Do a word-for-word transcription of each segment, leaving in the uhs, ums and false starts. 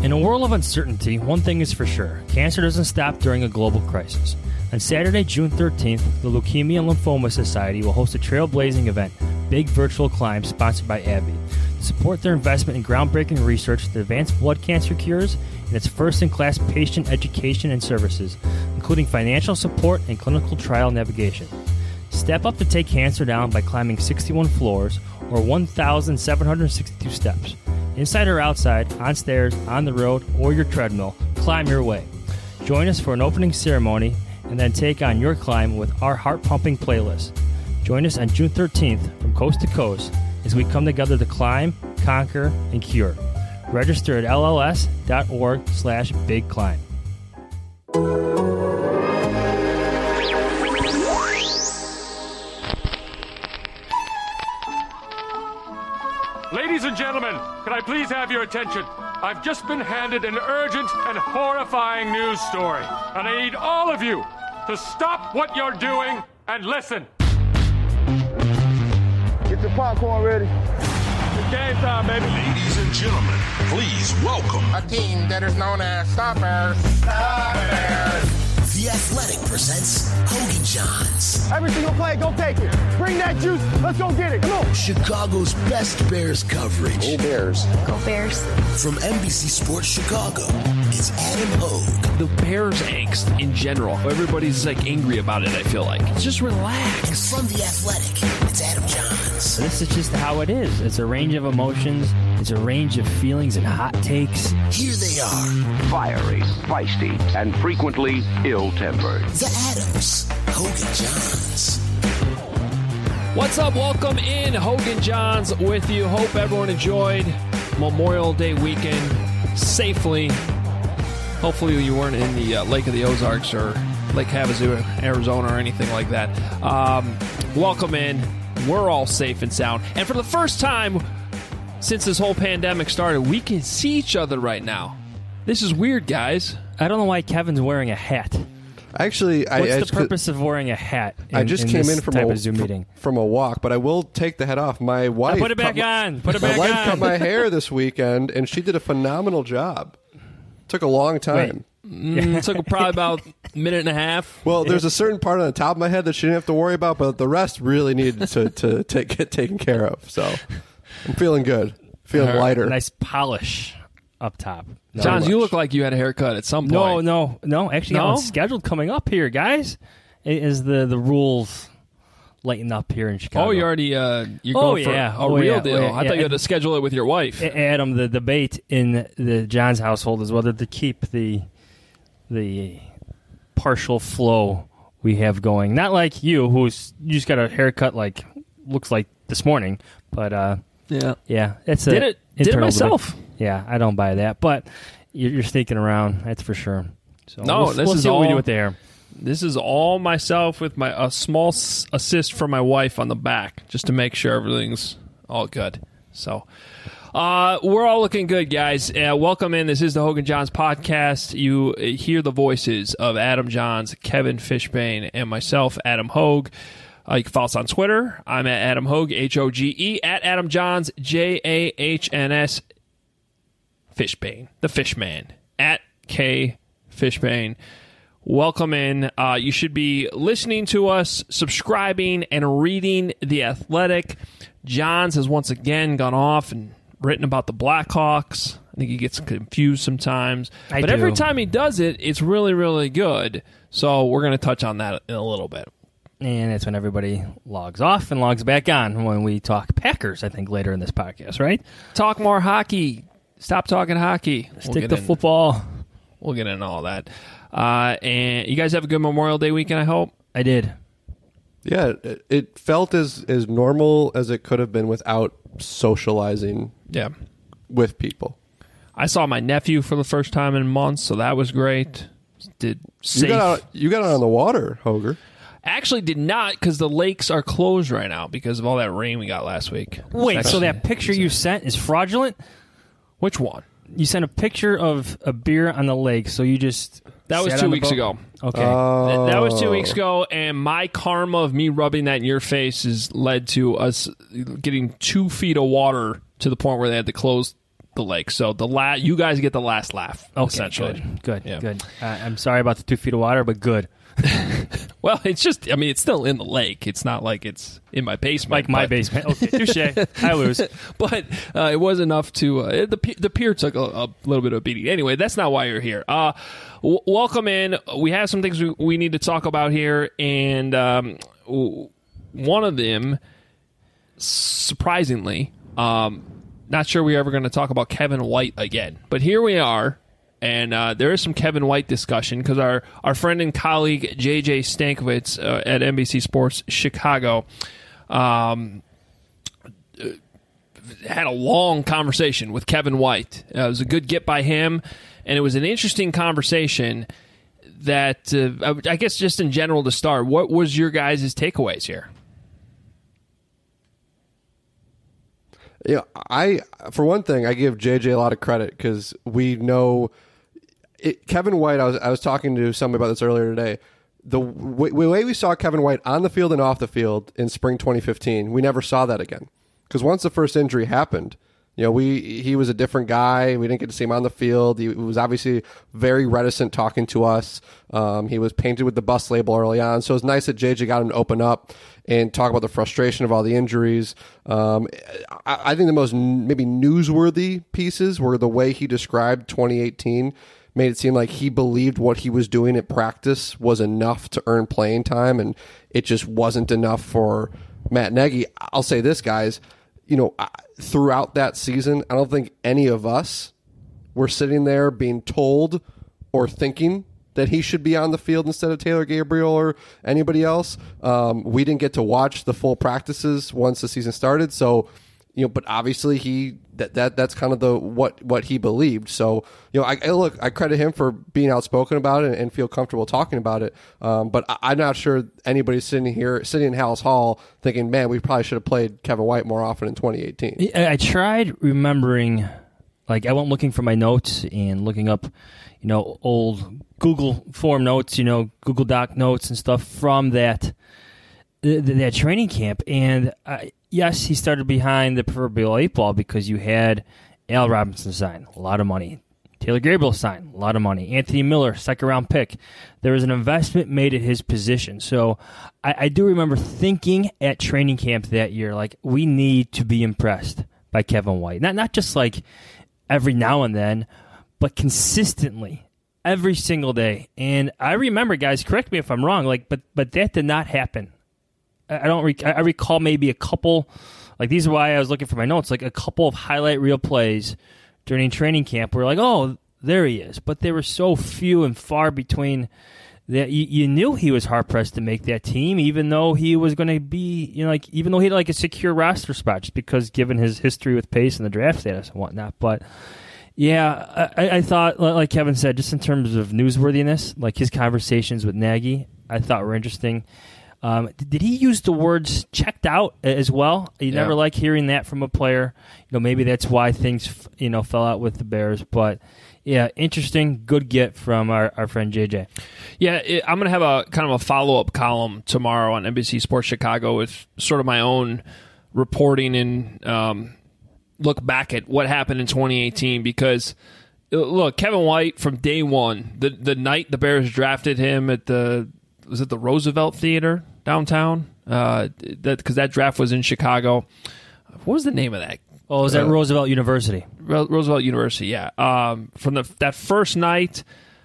In a world of uncertainty, one thing is for sure. Cancer doesn't stop during a global crisis. On Saturday, June thirteenth, the Leukemia and Lymphoma Society will host a trailblazing event, Big Virtual Climb, sponsored by AbbVie, to support their investment in groundbreaking research that advanced blood cancer cures and its first-in-class patient education and services, including financial support and clinical trial navigation. Step up to take cancer down by climbing sixty-one floors, or one thousand seven hundred sixty-two steps. Inside or outside, on stairs, on the road, or your treadmill, climb your way. Join us for an opening ceremony and then take on your climb with our heart-pumping playlist. Join us on June thirteenth from coast to coast as we come together to climb, conquer, and cure. Register at lls.org slash big climb. Ladies and gentlemen, can I please have your attention? I've just been handed an urgent and horrifying news story, and I need all of you to stop what you're doing and listen. Get your popcorn ready. Game time, baby. Ladies and gentlemen, please welcome a team that is known as Stop Bears. Stop Bears. The Athletic presents Hogan Johns. Every single play, go take it. Bring that juice. Let's go get it. Come on. Chicago's best Bears coverage. Go Bears. Go Bears. From N B C Sports Chicago, it's Adam Hogue. The Bears angst in general. Everybody's like angry about it, I feel like. Just relax. And from The Athletic, it's Adam Johns. This is just how it is. It's a range of emotions. It's a range of feelings and hot takes. Here they are. Fiery, feisty, and frequently ill-tempered. The Adams. Hogan Johns. What's up? Welcome in. Hogan Johns with you. Hope everyone enjoyed Memorial Day weekend safely. Hopefully you weren't in the uh, Lake of the Ozarks or Lake Havasu, Arizona, or anything like that. Um, welcome in. We're all safe and sound. And for the first time since this whole pandemic started, we can see each other right now. This is weird, guys. I don't know why Kevin's wearing a hat. Actually, What's I, I the just, purpose of wearing a hat in, I just in came this in from type a, of Zoom meeting? from a walk, but I will take the hat off. My wife I put it back cut my, on. Put it back my wife on. cut my hair this weekend, and she did a phenomenal job. Took a long time. Mm, it took probably about a minute and a half. Well, there's a certain part on the top of my head that she didn't have to worry about, but the rest really needed to, to take, get taken care of. So I'm feeling good. Feeling Her lighter. Nice polish up top. No, Johns, you look like you had a haircut at some point. No, no, no. Actually, No? I'm scheduled coming up here, guys. It is the, the rules lighten up here in Chicago. Oh, you already uh, you're Oh, going for yeah. a Oh, real yeah. deal. Oh, yeah. I Yeah. thought you had to schedule it with your wife. Adam, the debate in the Johns household is whether to keep the the partial flow we have going. Not like you, who's you just got a haircut like looks like this morning, but uh, yeah, yeah, it's a Did it? Did it internal myself. debate. Yeah, I don't buy that, but you're, you're sneaking around. That's for sure. So No, we'll, this we'll is see what we all- do with the hair. This is all myself with my a small s- assist from my wife on the back, just to make sure everything's all good. So, uh, we're all looking good, guys. Uh, welcome in. This is the Hogan Johns podcast. You uh, hear the voices of Adam Johns, Kevin Fishbane, and myself, Adam Hogue. Uh, you can follow us on Twitter. I'm at Adam Hogue, H O G E, at Adam Johns, J A H N S, Fishbane, the Fishman, at K Fishbane. Welcome in. Uh, you should be listening to us, subscribing, and reading The Athletic. Johns has once again gone off and written about the Blackhawks. I think he gets confused sometimes. I but do. every time he does it, it's really, really good. So we're going to touch on that in a little bit. And that's when everybody logs off and logs back on when we talk Packers, I think, later in this podcast, right? Talk more hockey. Stop talking hocky. We'll Stick get to in- football. We'll get into all that. Uh, and you guys have a good Memorial Day weekend, I hope. I did. Yeah, it, it felt as, as normal as it could have been without socializing Yeah. with people. I saw my nephew for the first time in months, so that was great. Did safe. You got out, you got out on the water, Hoger. Actually did not, because the lakes are closed right now because of all that rain we got last week. Wait, It's so actually- that picture you sent is fraudulent? Which one? You sent a picture of a beer on the lake, so you just... That was sat two on the weeks boat? ago. Okay. Th- That was two weeks ago, and my karma of me rubbing that in your face has led to us getting two feet of water to the point where they had to close the lake. So the la- you guys get the last laugh, Okay, essentially. Good, good. Yeah. good. Uh, I'm sorry about the two feet of water, but good. Well, it's just, I mean, it's still in the lake. It's not like it's in my basement. Like my but, basement. Okay, touche. I lose. But uh, it was enough to, uh, the, the pier took a, a little bit of a beating. Anyway, that's not why you're here. Uh, w- welcome in. We have some things we, we need to talk about here, and um, w- one of them, surprisingly, um, not sure we're ever going to talk about Kevin White again. But here we are. And uh, there is some Kevin White discussion because our, our friend and colleague J J Stankovitz uh, at N B C Sports Chicago um, had a long conversation with Kevin White. Uh, it was a good get by him, and it was an interesting conversation that, uh, I guess just in general to start, what was your guys' takeaways here? Yeah, I for one thing, I give J J a lot of credit because we know it, Kevin White. I was I was talking to somebody about this earlier today. The w- way we saw Kevin White on the field and off the field in spring twenty fifteen, we never saw that again. Because once the first injury happened, you know, we he was a different guy. We didn't get to see him on the field. He was obviously very reticent talking to us. Um, he was painted with the bus label early on. So it was nice that J J got him to open up and talk about the frustration of all the injuries. Um, I, I think the most n- maybe newsworthy pieces were the way he described twenty eighteen. Made it seem like he believed what he was doing at practice was enough to earn playing time, and it just wasn't enough for Matt Nagy. I'll say this, guys. You know, throughout that season, I don't think any of us were sitting there being told or thinking that he should be on the field instead of Taylor Gabriel or anybody else. Um, we didn't get to watch the full practices once the season started, so you know. But obviously, he that, that that's kind of the what what he believed. So you know, I, I look, I credit him for being outspoken about it and, and feel comfortable talking about it. Um, but I, I'm not sure anybody's sitting here sitting in Hallis Hall thinking, man, we probably should have played Kevin White more often in twenty eighteen. I, I tried remembering, like I went looking for my notes and looking up, you know, old Google form notes, you know, Google Doc notes and stuff from that th- that training camp. And uh, yes, he started behind the proverbial eight ball because you had Al Robinson sign, a lot of money. Taylor Gabriel signed, a lot of money. Anthony Miller, second round pick. There was an investment made at his position. So I, I do remember thinking at training camp that year, like, we need to be impressed by Kevin White. Not not just like every now and then, but consistently. Every single day. And I remember, guys, correct me if I'm wrong, like, but but that did not happen. I don't. Rec- I recall maybe a couple, like these are why I was looking for my notes, like a couple of highlight reel plays during training camp where like, oh, there he is. But they were so few and far between that you, you knew he was hard pressed to make that team, even though he was going to be, you know, like even though he had like a secure roster spot, just because given his history with pace and the draft status and whatnot, but. Yeah, I, I thought, like Kevin said, just in terms of newsworthiness, like his conversations with Nagy, I thought were interesting. Um, did he use the words checked out as well? You Yeah. never like hearing that from a player. You know, maybe that's why things, you know, fell out with the Bears. But, yeah, interesting, good get from our, our friend J J. Yeah, it, I'm going to have a kind of a follow-up column tomorrow on N B C Sports Chicago with sort of my own reporting and um, look back at what happened in twenty eighteen because, look, Kevin White from day one, the the night the Bears drafted him at the, was it the Roosevelt Theater downtown? Uh, that because that draft was in Chicago. What was the name of that? Oh, was that Uh, Roosevelt University? Ro- Roosevelt University, yeah. Um, from the that first night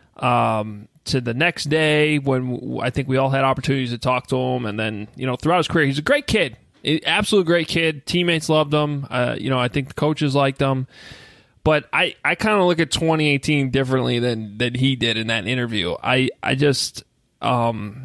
um, to the next day when w- I think we all had opportunities to talk to him, and then you know throughout his career, he's a great kid. Absolute great kid. Teammates loved him. Uh, you know, I think the coaches liked him. But I, I kind of look at twenty eighteen differently than, than he did in that interview. I, I just, um,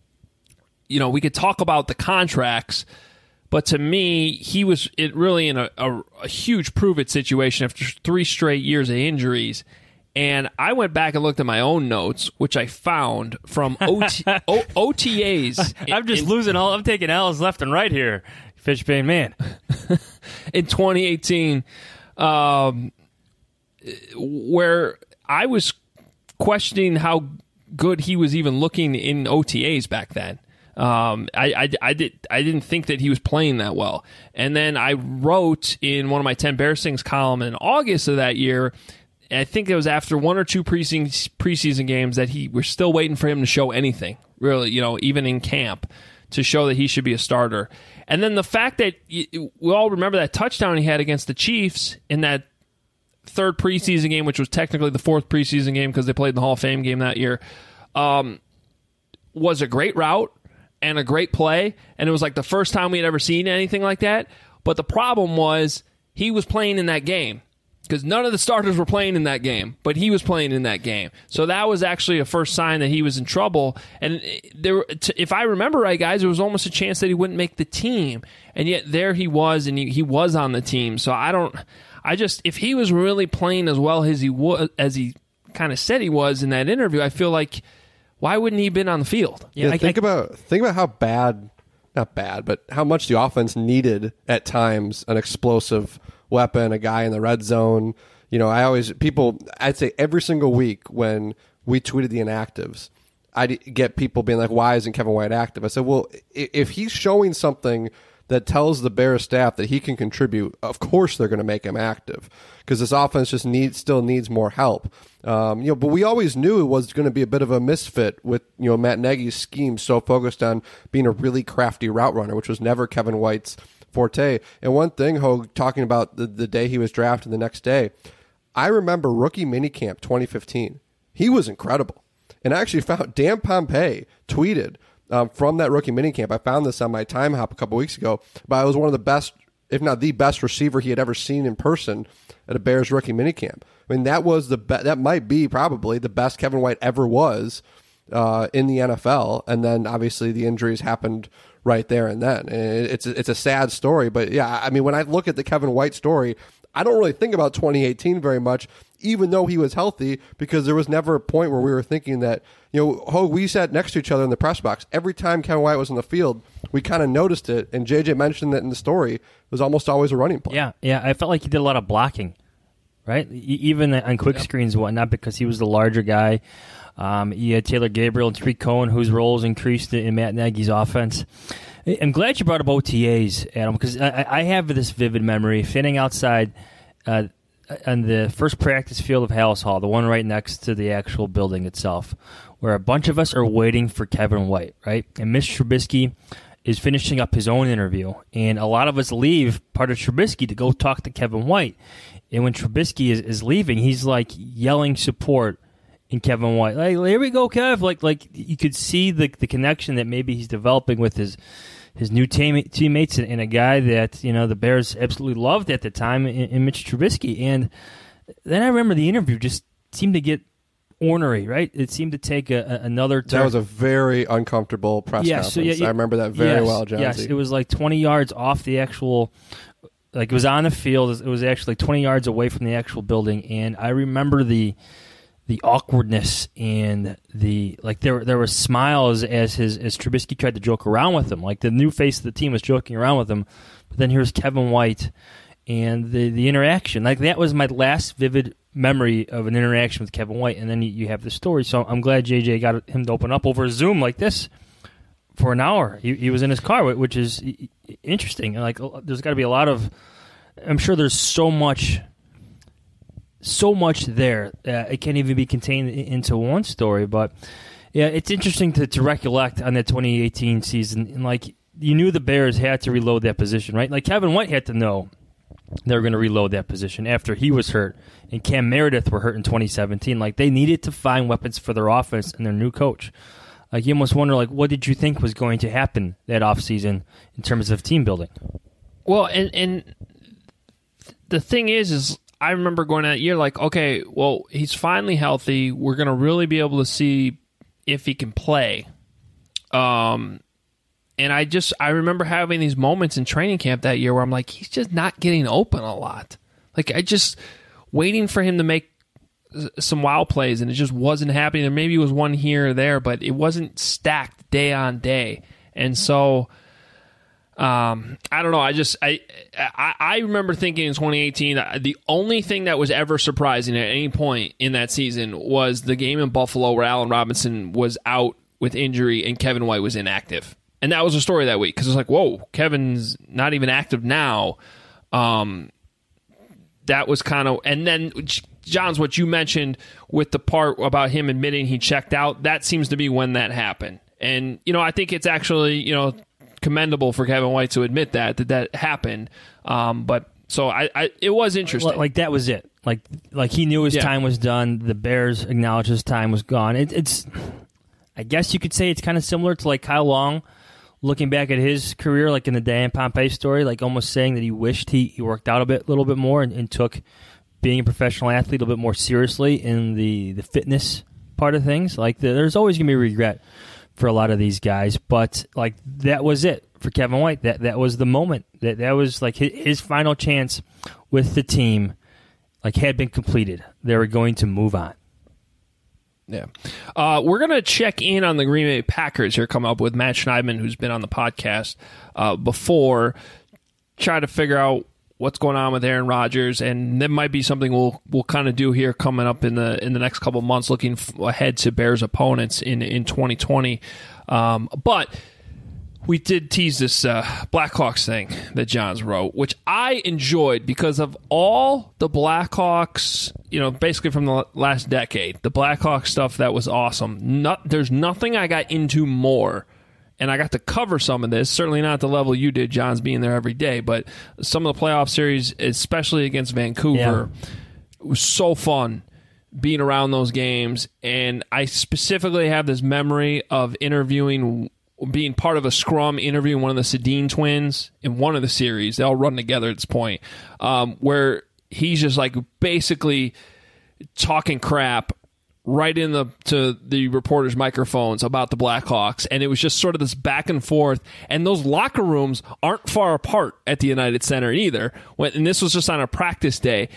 you know, we could talk about the contracts, but to me, he was it really in a, a, a huge prove-it situation after three straight years of injuries. And I went back and looked at my own notes, which I found from O T, o, O T As. I'm just in, losing all. I'm taking L's left and right here. Fishbane man. in twenty eighteen, um, where I was questioning how good he was even looking in O T As back then. Um, I, I, I, did, I didn't think that he was playing that well. And then I wrote in one of my ten Bears Things column in August of that year, I think it was after one or two preseason, preseason games, that he we're still waiting for him to show anything, really, you know, even in camp, to show that he should be a starter. And then the fact that we all remember that touchdown he had against the Chiefs in that third preseason game, which was technically the fourth preseason game because they played in the Hall of Fame game that year, um, was a great route and a great play. And it was like the first time we had ever seen anything like that. But the problem was he was playing in that game, because none of the starters were playing in that game, but he was playing in that game. So that was actually a first sign that he was in trouble. And there, if I remember right, guys, there was almost a chance that he wouldn't make the team. And yet there he was, and he, he was on the team. So I don't, I just, if he was really playing as well as he was, as he kind of said he was in that interview, I feel like, why wouldn't he have been on the field? Yeah, yeah I, think I, about think about how bad, not bad, but how much the offense needed at times an explosive weapon, a guy in the red zone. You know, I always, people, I'd say every single week when we tweeted the inactives, I'd get people being like, why isn't Kevin White active? I said, well, if he's showing something that tells the Bears staff that he can contribute, of course they're going to make him active, because this offense just needs, still needs more help. Um, you know, but we always knew it was going to be a bit of a misfit with, you know, Matt Nagy's scheme so focused on being a really crafty route runner, which was never Kevin White's forte. And one thing, Hogue, talking about the, the day he was drafted the next day, I remember rookie minicamp twenty fifteen. He was incredible. And I actually found Dan Pompei tweeted um, from that rookie minicamp. I found this on my time hop a couple weeks ago, but I was one of the best, if not the best receiver he had ever seen in person at a Bears rookie minicamp. I mean, that was the be- that might be probably the best Kevin White ever was uh, in the N F L. And then obviously the injuries happened right there and then. And it's a, it's a sad story, but yeah, I mean, when I look at the Kevin White story, I don't really think about twenty eighteen very much, even though he was healthy, because there was never a point where we were thinking that, you know, Hogue, we sat next to each other in the press box. Every time Kevin White was on the field, we kind of noticed it, and J J mentioned that in the story, it was almost always a running play. Yeah, yeah, I felt like he did a lot of blocking, right? Even on quick yep. screens and whatnot, because he was the larger guy. Um, you had Taylor Gabriel and Tariq Cohen, whose roles increased in Matt Nagy's offense. I'm glad you brought up O T As, Adam, because I, I have this vivid memory sitting outside uh, on the first practice field of Hallis Hall, the one right next to the actual building itself, where a bunch of us are waiting for Kevin White, right? And Mitch Trubisky is finishing up his own interview, and a lot of us leave part of Trubisky to go talk to Kevin White. And when Trubisky is, is leaving, he's like yelling support in Kevin White. Like, here we go, Kev. Like, like you could see the the connection that maybe he's developing with his his new team, teammates and, and a guy that, you know, the Bears absolutely loved at the time in, in Mitch Trubisky. And then I remember the interview just seemed to get ornery, right? It seemed to take a, a, another turn. That was a very uncomfortable press yes, conference. So yeah, yeah, I remember that very yes, well, Jonesy. Yes, it was like twenty yards off the actual, like it was on the field. It was actually twenty yards away from the actual building. And I remember the the awkwardness and the, like there there were smiles as his as Trubisky tried to joke around with him. Like the new face of the team was joking around with him. But then here's Kevin White and the, the interaction. Like that was my last vivid memory of an interaction with Kevin White, and then you, you have the story. So I'm glad J J got him to open up over Zoom like this for an hour. He, he was in his car, which is interesting. Like there's got to be a lot of, I'm sure there's so much, so much there. Uh, it can't even be contained into one story. But yeah, it's interesting to, to recollect on that twenty eighteen season. And like you knew the Bears had to reload that position, right? Like Kevin White had to know they were going to reload that position after he was hurt and Cam Meredith were hurt in twenty seventeen. Like they needed to find weapons for their offense and their new coach. Like you almost wonder, like, what did you think was going to happen that offseason in terms of team building? Well, and and the thing is, is I remember going that year like, okay, well, he's finally healthy. We're going to really be able to see if he can play. Um, and I just, I remember having these moments in training camp that year where I'm like, he's just not getting open a lot. Like, I just, waiting for him to make some wild plays, and it just wasn't happening. There maybe was one here or there, but it wasn't stacked day on day. And so, Um, I don't know. I just I, I I remember thinking in twenty eighteen the only thing that was ever surprising at any point in that season was the game in Buffalo where Allen Robinson was out with injury and Kevin White was inactive. And that was a story that week because it's like, whoa, Kevin's not even active now. Um, that was kind of, and then John's what you mentioned with the part about him admitting he checked out. That seems to be when that happened. And, you know, I think it's actually, you know, commendable for Kevin White to admit that, that that happened. Um, but so I, I, it was interesting. Like that was it. Like, like he knew his Yeah. time was done. The Bears acknowledged his time was gone. It, it's, I guess you could say it's kind of similar to like Kyle Long looking back at his career, like in the Dan Pompei story, like almost saying that he wished he, he worked out a bit, little bit more and, and took being a professional athlete a little bit more seriously in the, the fitness part of things. Like the, there's always going to be regret for a lot of these guys, but like that was it for Kevin White. That that was the moment. That that was like his, his final chance with the team. Like had been completed. They were going to move on. Yeah. Uh, we're going to check in on the Green Bay Packers here, coming up with Matt Schneidman, who's been on the podcast uh, before, try to figure out what's going on with Aaron Rodgers, and that might be something we'll we'll kind of do here coming up in the in the next couple of months, looking f- ahead to Bears opponents in, in twenty twenty. Um, but we did tease this uh, Blackhawks thing that Johns wrote, which I enjoyed because of all the Blackhawks, you know, basically from the last decade, the Blackhawks stuff that was awesome. Not, there's nothing I got into more, and I got to cover some of this, certainly not at the level you did, Johns, being there every day, but some of the playoff series, especially against Vancouver, Yeah. it was so fun being around those games, and I specifically have this memory of interviewing being part of a scrum interviewing one of the Sedin twins in one of the series. They all run together at this point, um, where he's just like basically talking crap right in the to the reporters' microphones about the Blackhawks, and it was just sort of this back and forth. And those locker rooms aren't far apart at the United Center either. When, and this was just on a practice day.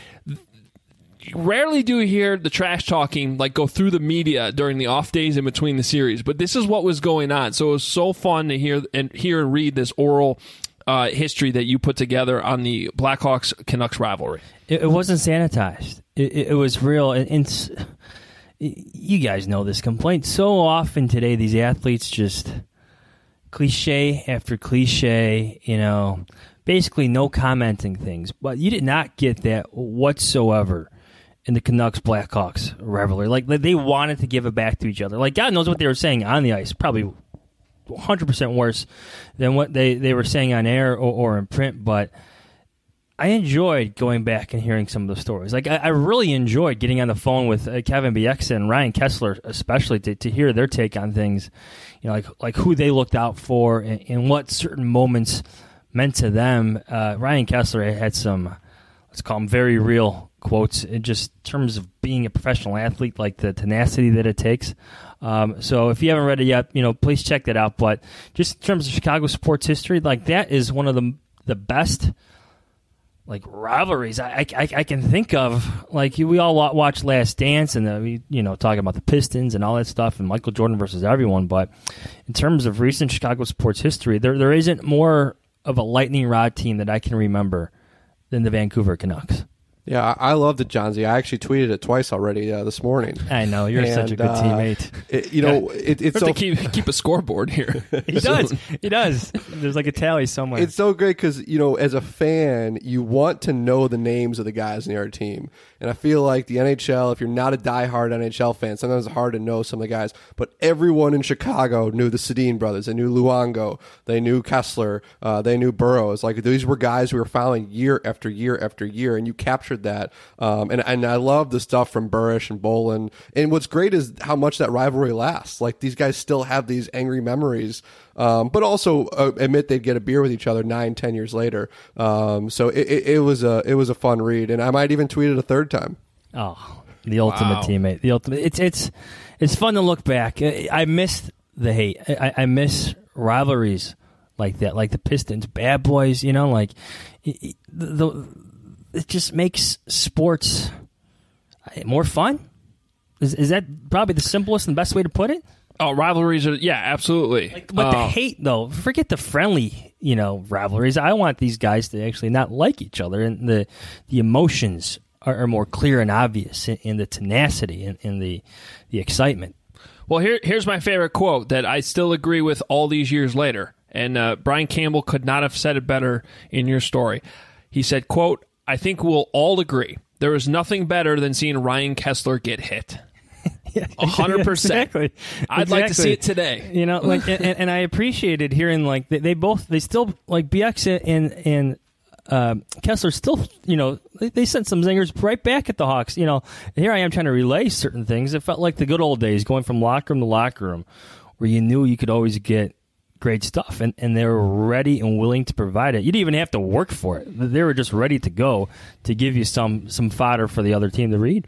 Rarely do you hear the trash talking like go through the media during the off days in between the series, but this is what was going on. So it was so fun to hear and hear and read this oral uh, history that you put together on the Blackhawks Canucks rivalry. It, it wasn't sanitized. It, it, it was real. And, and s- you guys know this complaint. So often today, these athletes just cliche after cliche, you know, basically no commenting things. But you did not get that whatsoever in the Canucks Blackhawks rivalry. Like, they wanted to give it back to each other. Like, God knows what they were saying on the ice. Probably one hundred percent worse than what they, they were saying on air or, or in print. But I enjoyed going back and hearing some of the stories. Like, I, I really enjoyed getting on the phone with uh, Kevin Bieksa and Ryan Kessler, especially to, to hear their take on things. You know, like like who they looked out for and, and what certain moments meant to them. Uh, Ryan Kessler had some, let's call them very real quotes in just terms of being a professional athlete, like the tenacity that it takes. Um, so if you haven't read it yet, you know, please check that out. But just in terms of Chicago sports history, like that is one of the the best like rivalries I, I, I can think of. Like we all watch Last Dance and uh, we, you know, talking about the Pistons and all that stuff and Michael Jordan versus everyone. But in terms of recent Chicago sports history, there there isn't more of a lightning rod team that I can remember than the Vancouver Canucks. Yeah, I I love the Johnsy. I actually tweeted it twice already uh, this morning. I know you're And, such a good uh, teammate. It, you know, it, it's We so have to keep keep a scoreboard here. He does. He does. There's like a tally somewhere. It's so great because, you know, as a fan, you want to know the names of the guys in your team. And I feel like the N H L, if you're not a diehard N H L fan, sometimes it's hard to know some of the guys. But everyone in Chicago knew the Sedin brothers. They knew Luongo. They knew Kessler. Uh, they knew Burroughs. Like, these were guys we were following year after year after year, and you captured that. Um, and, and I love the stuff from Burish and Bolin. And what's great is how much that rivalry lasts. Like, these guys still have these angry memories. Um, but also uh, admit they'd get a beer with each other nine, ten years later. Um, so it, it, it was a it was a fun read, and I might even tweet it a third time. Oh, the ultimate Wow. teammate. The ultimate. It's it's it's fun to look back. I, I miss the hate. I, I miss rivalries like that, like the Pistons, Bad Boys. You know, like it, the, it just makes sports more fun. Is is that probably the simplest and best way to put it? Oh, rivalries are, yeah, absolutely. Like, but the Uh, hate, though, forget the friendly, you know, rivalries. I want these guys to actually not like each other, and the the emotions are, are more clear and obvious in, in the tenacity and in the the excitement. Well, here, here's my favorite quote that I still agree with all these years later. And uh, Brian Campbell could not have said it better in your story. He said, quote, "I think we'll all agree there is nothing better than seeing Ryan Kesler get hit." A hundred percent. Exactly. I'd exactly. like to see it today. You know, like, and, and I appreciated hearing like they, they both they still like B X and and uh, Kessler still, you know, they, they sent some zingers right back at the Hawks. You know, here I am trying to relay certain things. It felt like the good old days, going from locker room to locker room, where you knew you could always get great stuff, and, and they were ready and willing to provide it. You didn't even have to work for it. They were just ready to go to give you some some fodder for the other team to read.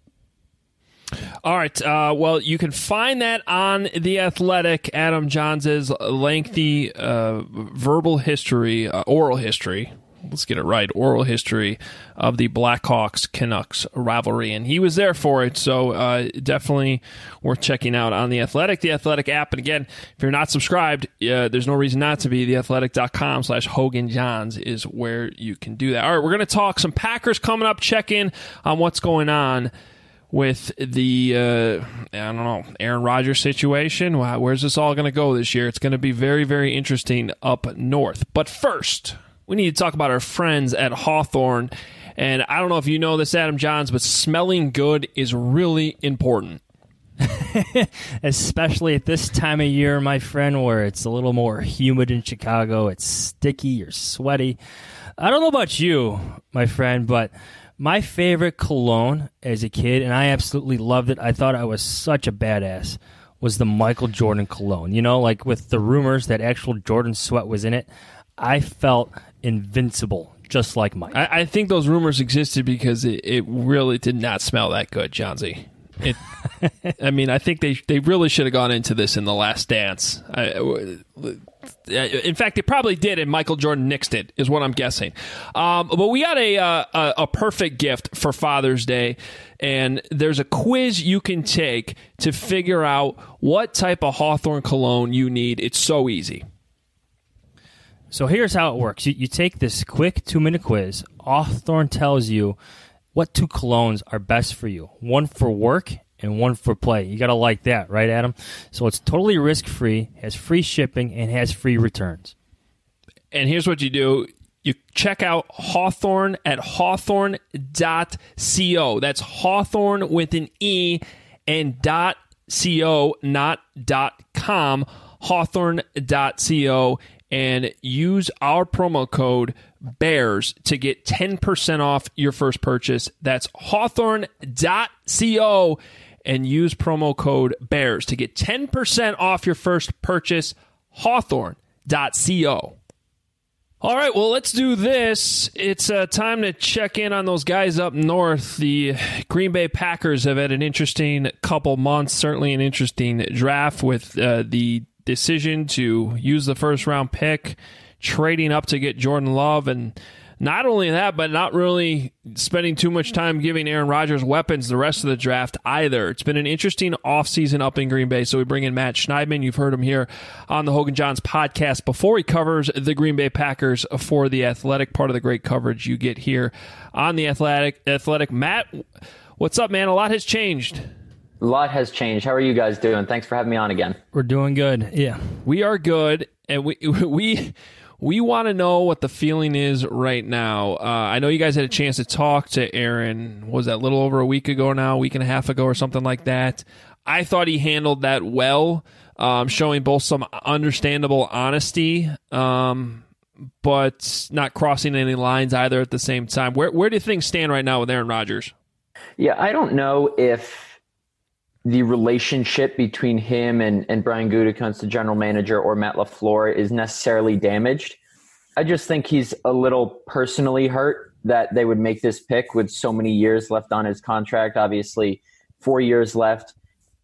All right. Uh, well, you can find that on The Athletic, Adam Johns' lengthy uh, verbal history, uh, oral history. Let's get it right. Oral history of the Blackhawks-Canucks rivalry. And he was there for it, so uh, definitely worth checking out on The Athletic, The Athletic app. And again, if you're not subscribed, uh, there's no reason not to be. theathletic.com slash Hogan Johns is where you can do that. All right, we're going to talk some Packers coming up, check in on what's going on with the, uh, I don't know, Aaron Rodgers situation. Wow, where's this all going to go this year? It's going to be very, very interesting up north. But first, we need to talk about our friends at Hawthorne. And I don't know if you know this, Adam Johns, but smelling good is really important. Especially at this time of year, my friend, where it's a little more humid in Chicago. It's sticky, you're sweaty. I don't know about you, my friend, but my favorite cologne as a kid, and I absolutely loved it, I thought I was such a badass, was the Michael Jordan cologne. You know, like with the rumors that actual Jordan sweat was in it, I felt invincible, just like Mike. I, I think those rumors existed because it, it really did not smell that good, Johnsy. It, I mean, I think they they really should have gone into this in The Last Dance. I, in fact, they probably did, and Michael Jordan nixed it, is what I'm guessing. Um, but we got a, uh, a a perfect gift for Father's Day, and there's a quiz you can take to figure out what type of Hawthorne cologne you need. It's so easy. So here's how it works. You, you take this quick two-minute quiz. Hawthorne tells you what two colognes are best for you. One for work and one for play. You got to like that, right, Adam? So it's totally risk-free, has free shipping, and has free returns. And here's what you do. You check out Hawthorne at hawthorne dot co. That's Hawthorne with an E and dot co, not dot com. Hawthorne dot co. And use our promo code BEARS to get ten percent off your first purchase. That's hawthorne dot co. And use promo code BEARS to get ten percent off your first purchase. hawthorne dot co. All right, well, let's do this. It's uh, time to check in on those guys up north. The Green Bay Packers have had an interesting couple months, certainly an interesting draft with uh, the decision to use the first round pick, trading up to get Jordan Love, and not only that, but not really spending too much time giving Aaron Rodgers weapons the rest of the draft either. It's been an interesting offseason up in Green Bay, so we bring in Matt Schneidman. You've heard him here on the Hogan Johns podcast before. He covers the Green Bay Packers for The Athletic, part of the great coverage you get here on The Athletic. Athletic. Matt, what's up, man? A lot has changed. A lot has changed. How are you guys doing? Thanks for having me on again. We're doing good. Yeah. We are good, and we we we want to know what the feeling is right now. Uh, I know you guys had a chance to talk to Aaron, what was that, a little over a week ago now, a week and a half ago or something like that. I thought he handled that well, um, showing both some understandable honesty, um, but not crossing any lines either at the same time. Where, where do things stand right now with Aaron Rodgers? Yeah, I don't know if the relationship between him and, and Brian Gutekunst, the general manager, or Matt LaFleur is necessarily damaged. I just think he's a little personally hurt that they would make this pick with so many years left on his contract. Obviously, four years left.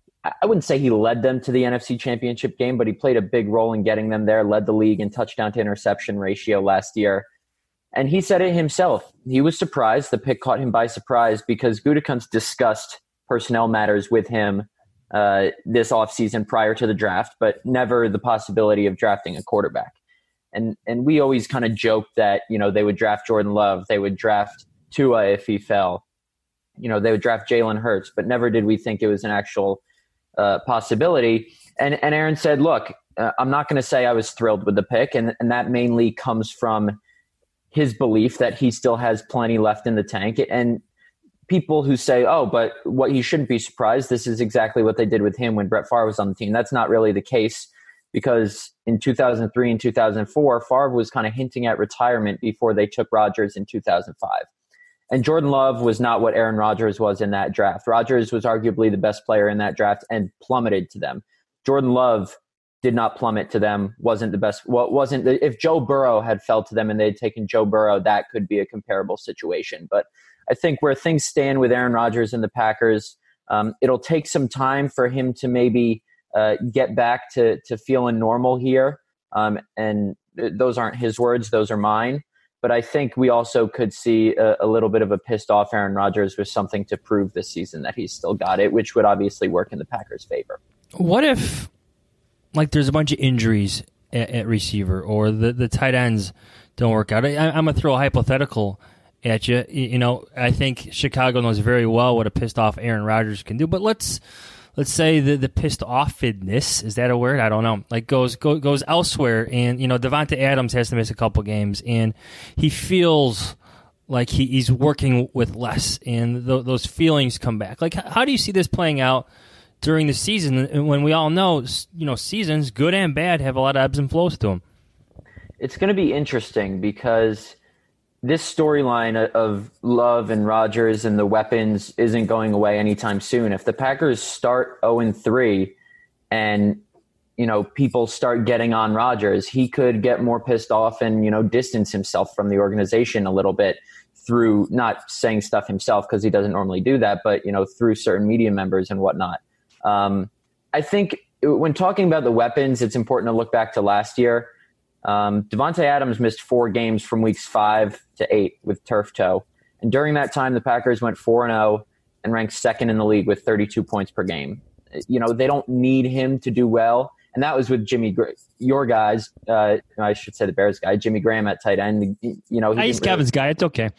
I wouldn't say he led them to the N F C Championship game, but he played a big role in getting them there, led the league in touchdown to interception ratio last year. And he said it himself. He was surprised. The pick caught him by surprise because Gutekunst discussed personnel matters with him uh, this offseason prior to the draft, but never the possibility of drafting a quarterback. And and we always kind of joked that, you know, they would draft Jordan Love, they would draft Tua if he fell, you know, they would draft Jalen Hurts, but never did we think it was an actual uh, possibility. And, and Aaron said, look, uh, I'm not going to say I was thrilled with the pick. And, and that mainly comes from his belief that he still has plenty left in the tank. And people who say, oh, but what you shouldn't be surprised. This is exactly what they did with him when Brett Favre was on the team. That's not really the case, because in two thousand three and two thousand four, Favre was kind of hinting at retirement before they took Rodgers in two thousand five. And Jordan Love was not what Aaron Rodgers was in that draft. Rodgers was arguably the best player in that draft and plummeted to them. Jordan Love did not plummet to them, wasn't the best. Well, wasn't the, if Joe Burrow had fell to them and they'd taken Joe Burrow, that could be a comparable situation. But I think where things stand with Aaron Rodgers and the Packers, um, it'll take some time for him to maybe uh, get back to to feeling normal here. Um, and th- those aren't his words; those are mine. But I think we also could see a, a little bit of a pissed off Aaron Rodgers with something to prove this season that he's still got it, which would obviously work in the Packers' favor. What if, like, there's a bunch of injuries at, at receiver, or the, the tight ends don't work out? I, I'm going to throw a hypothetical at you. You know, I think Chicago knows very well what a pissed off Aaron Rodgers can do. But let's let's say the the pissed offedness, is that a word? I don't know. Like goes go, goes elsewhere, and you know Devontae Adams has to miss a couple games, and he feels like he, he's working with less, and th- those feelings come back. Like, how do you see this playing out during the season, when we all know, you know, seasons, good and bad, have a lot of ebbs and flows to them? It's going to be interesting because this storyline of Love and Rodgers and the weapons isn't going away anytime soon. If the Packers start oh and three and, you know, people start getting on Rodgers, he could get more pissed off and, you know, distance himself from the organization a little bit through not saying stuff himself, because he doesn't normally do that, but, you know, through certain media members and whatnot. Um, I think when talking about the weapons, it's important to look back to last year. Um, Devontae Adams missed four games from weeks five to eight with turf toe. And during that time, the Packers went four and oh and ranked second in the league with thirty-two points per game. You know, they don't need him to do well. And that was with Jimmy, your guys, uh, I should say the Bears guy, Jimmy Graham at tight end. You know, he I use Kevin's really... guy. It's okay.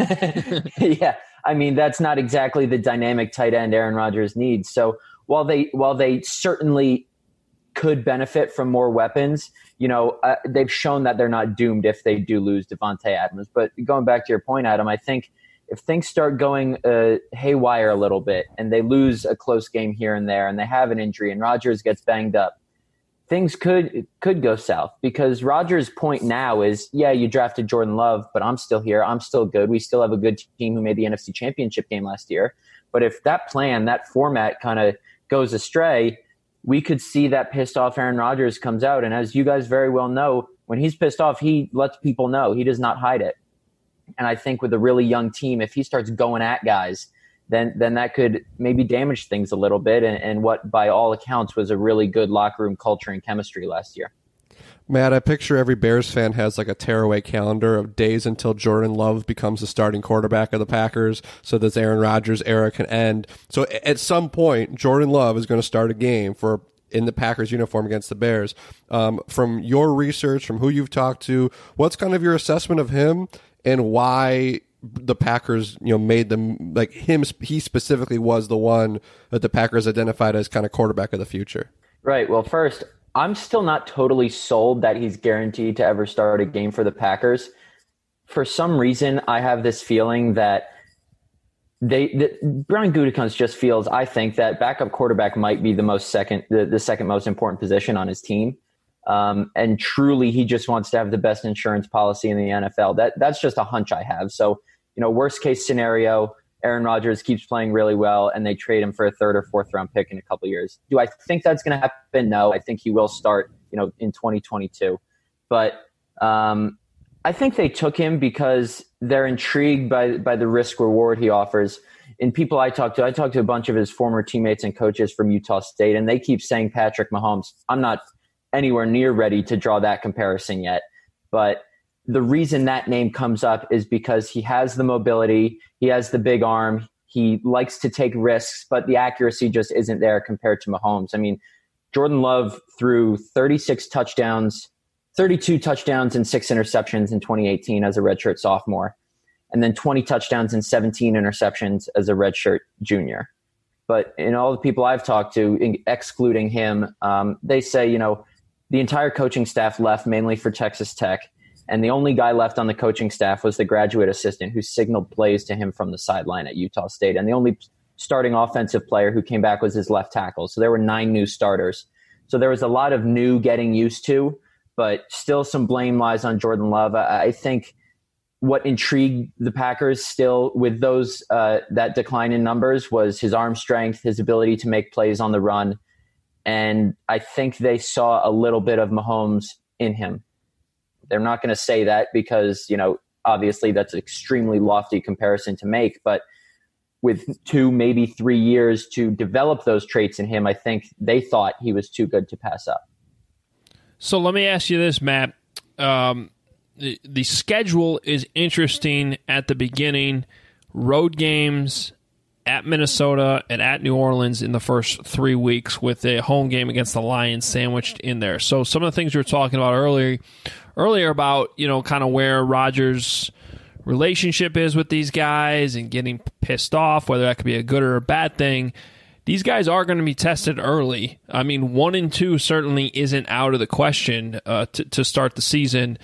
Yeah. I mean, that's not exactly the dynamic tight end Aaron Rodgers needs. So while they, while they certainly could benefit from more weapons, you know, uh, they've shown that they're not doomed if they do lose Devontae Adams. But going back to your point, Adam, I think if things start going uh, haywire a little bit and they lose a close game here and there and they have an injury and Rodgers gets banged up, things could could go south, because Rodgers' point now is, yeah, you drafted Jordan Love, but I'm still here. I'm still good. We still have a good team who made the N F C Championship game last year. But if that plan, that format kind of goes astray, we could see that pissed off Aaron Rodgers comes out. And as you guys very well know, when he's pissed off, he lets people know. He does not hide it. And I think with a really young team, if he starts going at guys, then then that could maybe damage things a little bit. And, and what, by all accounts, was a really good locker room culture and chemistry last year. Matt, I picture every Bears fan has like a tearaway calendar of days until Jordan Love becomes the starting quarterback of the Packers, so this Aaron Rodgers era can end. So at some point, Jordan Love is going to start a game for in the Packers uniform against the Bears. Um, from your research, from who you've talked to, what's kind of your assessment of him and why the Packers, you know, made them, like him, he specifically was the one that the Packers identified as kind of quarterback of the future? Right. Well, first, I'm still not totally sold that he's guaranteed to ever start a game for the Packers. For some reason, I have this feeling that they, that Brian Gutekunst just feels, I think, that backup quarterback might be the most second, the, the second most important position on his team. Um, and truly, he just wants to have the best insurance policy in the N F L. That that's just a hunch I have. So, you know, worst case scenario, Aaron Rodgers keeps playing really well and they trade him for a third or fourth round pick in a couple of years. Do I think that's going to happen? No, I think he will start, you know, in twenty twenty-two. But um, I think they took him because they're intrigued by by the risk reward he offers. And people I talked to, I talked to a bunch of his former teammates and coaches from Utah State, and they keep saying Patrick Mahomes. I'm not anywhere near ready to draw that comparison yet. But the reason that name comes up is because he has the mobility, he has the big arm, he likes to take risks, but the accuracy just isn't there compared to Mahomes. I mean, Jordan Love threw thirty-six touchdowns, thirty-two touchdowns and six interceptions in twenty eighteen as a redshirt sophomore, and then twenty touchdowns and seventeen interceptions as a redshirt junior. But in all the people I've talked to, in, excluding him, um, they say, you know, the entire coaching staff left mainly for Texas Tech. And the only guy left on the coaching staff was the graduate assistant who signaled plays to him from the sideline at Utah State. And the only starting offensive player who came back was his left tackle. So there were nine new starters. So there was a lot of new getting used to, but still some blame lies on Jordan Love. I, I think what intrigued the Packers still with those uh, that decline in numbers was his arm strength, his ability to make plays on the run. And I think they saw a little bit of Mahomes in him. They're not going to say that because, you know, obviously that's an extremely lofty comparison to make. But with two, maybe three years to develop those traits in him, I think they thought he was too good to pass up. So let me ask you this, Matt. Um, the, the schedule is interesting at the beginning. Road games at Minnesota and at New Orleans in the first three weeks with a home game against the Lions sandwiched in there. So some of the things you were talking about earlier, earlier about, you know, kind of where Rodgers' relationship is with these guys and getting pissed off, whether that could be a good or a bad thing. These guys are going to be tested early. I mean, one and two certainly isn't out of the question uh, to, to start the season.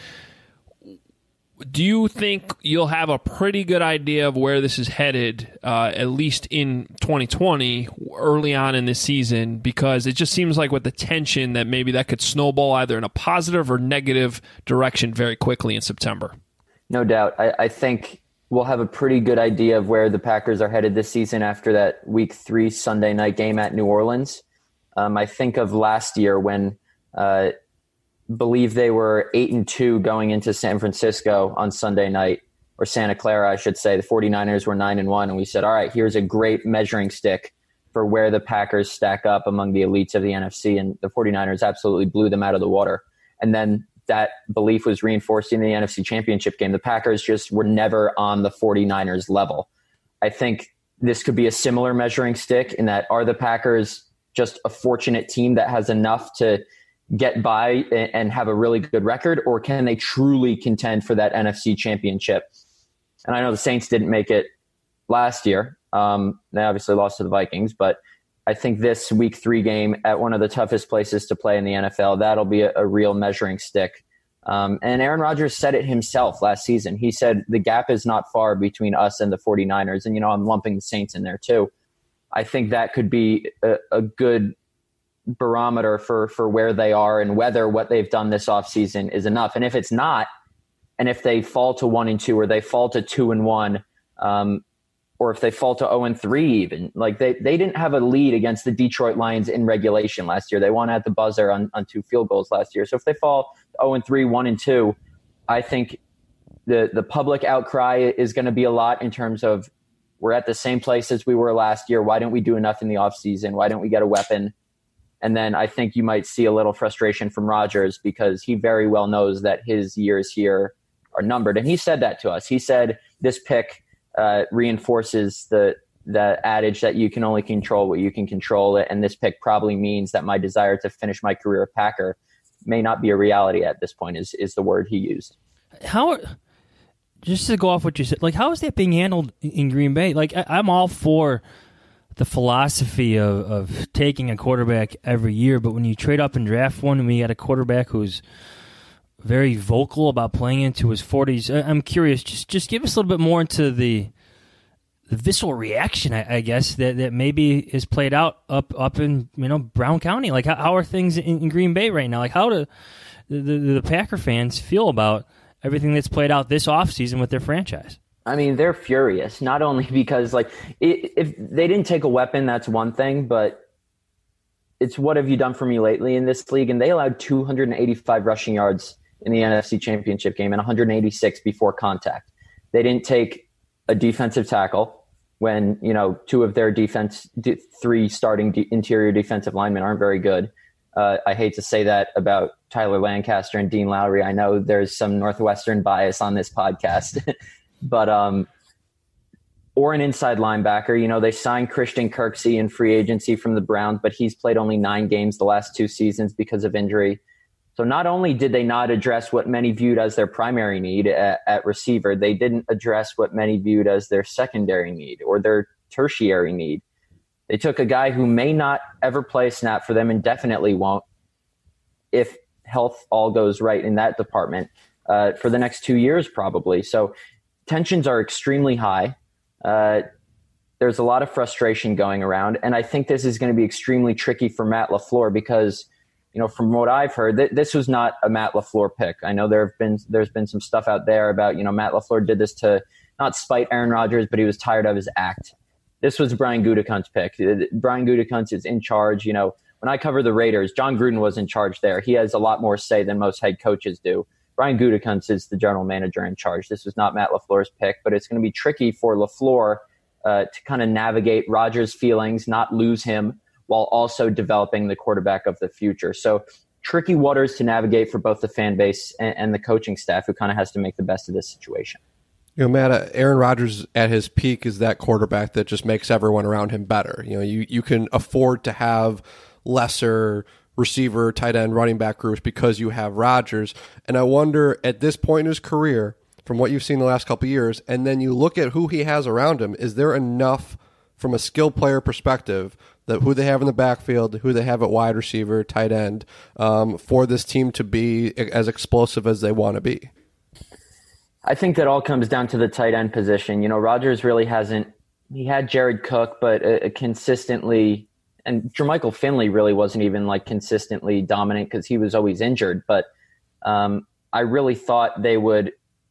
Do you think you'll have a pretty good idea of where this is headed, uh, at least in twenty twenty, early on in this season? Because it just seems like with the tension that maybe that could snowball either in a positive or negative direction very quickly in September. No doubt. I, I think we'll have a pretty good idea of where the Packers are headed this season after that week three Sunday night game at New Orleans. Um, I think of last year when uh, believe they were eight and two going into San Francisco on Sunday night, or Santa Clara, I should say. The 49ers were nine and one, and we said, all right, here's a great measuring stick for where the Packers stack up among the elites of the N F C, and the 49ers absolutely blew them out of the water. And then that belief was reinforced in the N F C Championship game. The Packers just were never on the 49ers level. I think this could be a similar measuring stick in that, are the Packers just a fortunate team that has enough to get by and have a really good record, or can they truly contend for that N F C Championship? And I know the Saints didn't make it last year. Um, they obviously lost to the Vikings, but I think this week three game at one of the toughest places to play in the N F L, that'll be a, a real measuring stick. Um, and Aaron Rodgers said it himself last season. He said the gap is not far between us and the 49ers. And, you know, I'm lumping the Saints in there too. I think that could be a, a good barometer for, for where they are and whether what they've done this offseason is enough. And if it's not, and if they fall to one and two, or they fall to two and one, um, or if they fall to oh and three even, like they, they didn't have a lead against the Detroit Lions in regulation last year. They won at the buzzer on, on two field goals last year. So if they fall oh and three, one and two, I think the, the public outcry is going to be a lot in terms of, we're at the same place as we were last year. Why didn't we do enough in the offseason? Why didn't we get a weapon? And then I think you might see a little frustration from Rodgers because he very well knows that his years here are numbered. And he said that to us. He said this pick uh, reinforces the the adage that you can only control what you can control. And this pick probably means that my desire to finish my career a Packer may not be a reality at this point, is, is the word he used. How, just to go off what you said, like how is that being handled in Green Bay? Like I, I'm all for the philosophy of, of taking a quarterback every year, but when you trade up and draft one and we got a quarterback who's very vocal about playing into his forties, I'm curious, just just give us a little bit more into the the visceral reaction, I, I guess, that, that maybe is played out up up in, you know, Brown County. Like how, how are things in, in Green Bay right now? Like how do the, the, the Packer fans feel about everything that's played out this offseason with their franchise? I mean, they're furious, not only because, like, it, if they didn't take a weapon, that's one thing, but it's what have you done for me lately in this league? And they allowed two hundred eighty-five rushing yards in the N F C Championship game and one hundred eighty-six before contact. They didn't take a defensive tackle when, you know, two of their defense, three starting de- interior defensive linemen aren't very good. Uh, I hate to say that about Tyler Lancaster and Dean Lowry. I know there's some Northwestern bias on this podcast. But um, or an inside linebacker. You know, they signed Christian Kirksey in free agency from the Browns, but he's played only nine games the last two seasons because of injury. So not only did they not address what many viewed as their primary need at, at receiver, they didn't address what many viewed as their secondary need or their tertiary need. They took a guy who may not ever play a snap for them and definitely won't if health all goes right in that department uh, for the next two years probably. So tensions are extremely high. Uh, there's a lot of frustration going around. And I think this is going to be extremely tricky for Matt LaFleur because, you know, from what I've heard, th- this was not a Matt LaFleur pick. I know there have been, there's been some stuff out there about, you know, Matt LaFleur did this to not spite Aaron Rodgers, but he was tired of his act. This was Brian Gutekunst's pick. Brian Gutekunst is in charge. You know, when I cover the Raiders, John Gruden was in charge there. He has a lot more say than most head coaches do. Brian Gutekunst is the general manager in charge. This was not Matt LaFleur's pick, but it's going to be tricky for LaFleur uh, to kind of navigate Rodgers' feelings, not lose him, while also developing the quarterback of the future. So tricky waters to navigate for both the fan base and, and the coaching staff, who kind of has to make the best of this situation. You know, Matt, Aaron Rodgers at his peak is that quarterback that just makes everyone around him better. You know, you, you can afford to have lesser receiver, tight end, running back groups because you have Rodgers. And I wonder at this point in his career, from what you've seen the last couple of years, and then you look at who he has around him, is there enough from a skill player perspective that who they have in the backfield, who they have at wide receiver, tight end, um, for this team to be as explosive as they want to be? I think that all comes down to the tight end position. You know, Rodgers really hasn't – he had Jared Cook, but uh, consistently – and Jermichael Finley really wasn't even, like, consistently dominant because he was always injured. But um, I really thought they would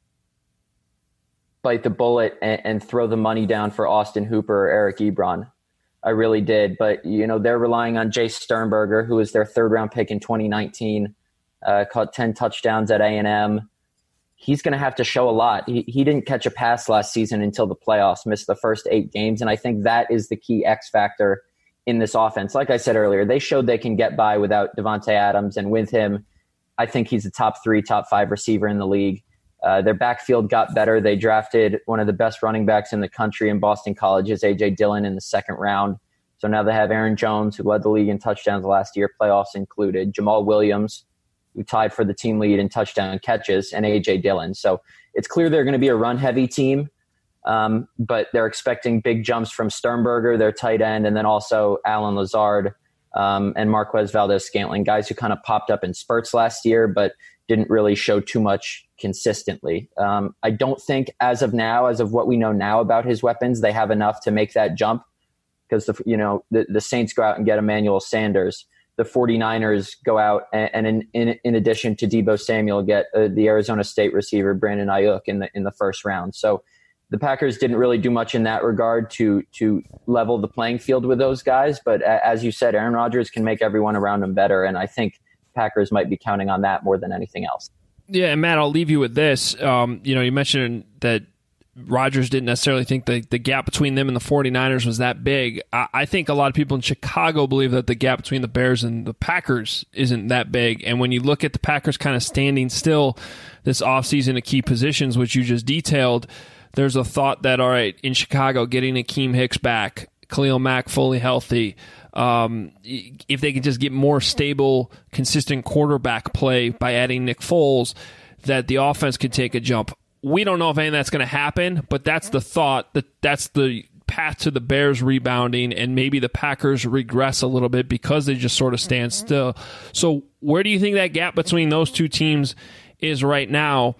bite the bullet and, and throw the money down for Austin Hooper or Eric Ebron. I really did. But, you know, they're relying on Jace Sternberger, who was their third-round pick in twenty nineteen, uh, caught ten touchdowns at A and M. He's going to have to show a lot. He, he didn't catch a pass last season until the playoffs, missed the first eight games. And I think that is the key X factor in this offense. Like I said earlier, they showed they can get by without Davante Adams. And with him, I think he's a top three, top five receiver in the league. Uh, their backfield got better. They drafted one of the best running backs in the country in Boston College's A J Dillon in the second round. So now they have Aaron Jones, who led the league in touchdowns last year, playoffs included, Jamal Williams, who tied for the team lead in touchdown catches, and A J Dillon. So it's clear they're going to be a run-heavy team, um, but they're expecting big jumps from Sternberger, their tight end, and then also Allen Lazard um, and Marquez Valdez-Scantling, guys who kind of popped up in spurts last year, but didn't really show too much consistently. Um, I don't think as of now, as of what we know now about his weapons, they have enough to make that jump because the, you know, the, the Saints go out and get Emmanuel Sanders. The 49ers go out and, and in, in, in addition to Deebo Samuel, get uh, the Arizona State receiver Brandon Ayuk in the in the first round. So the Packers didn't really do much in that regard to to level the playing field with those guys. But uh, as you said, Aaron Rodgers can make everyone around him better, and I think Packers might be counting on that more than anything else. Yeah, and Matt, I'll leave you with this. Um, you know, you mentioned that Rodgers didn't necessarily think the, the gap between them and the 49ers was that big. I, I think a lot of people in Chicago believe that the gap between the Bears and the Packers isn't that big. And when you look at the Packers kind of standing still this offseason at key positions, which you just detailed, there's a thought that, all right, in Chicago, getting Akeem Hicks back, Khalil Mack fully healthy, um, if they can just get more stable, consistent quarterback play by adding Nick Foles, that the offense could take a jump. We don't know if any of that's going to happen, but that's the thought, that that's the path to the Bears rebounding, and maybe the Packers regress a little bit because they just sort of stand still. So where do you think that gap between those two teams is right now?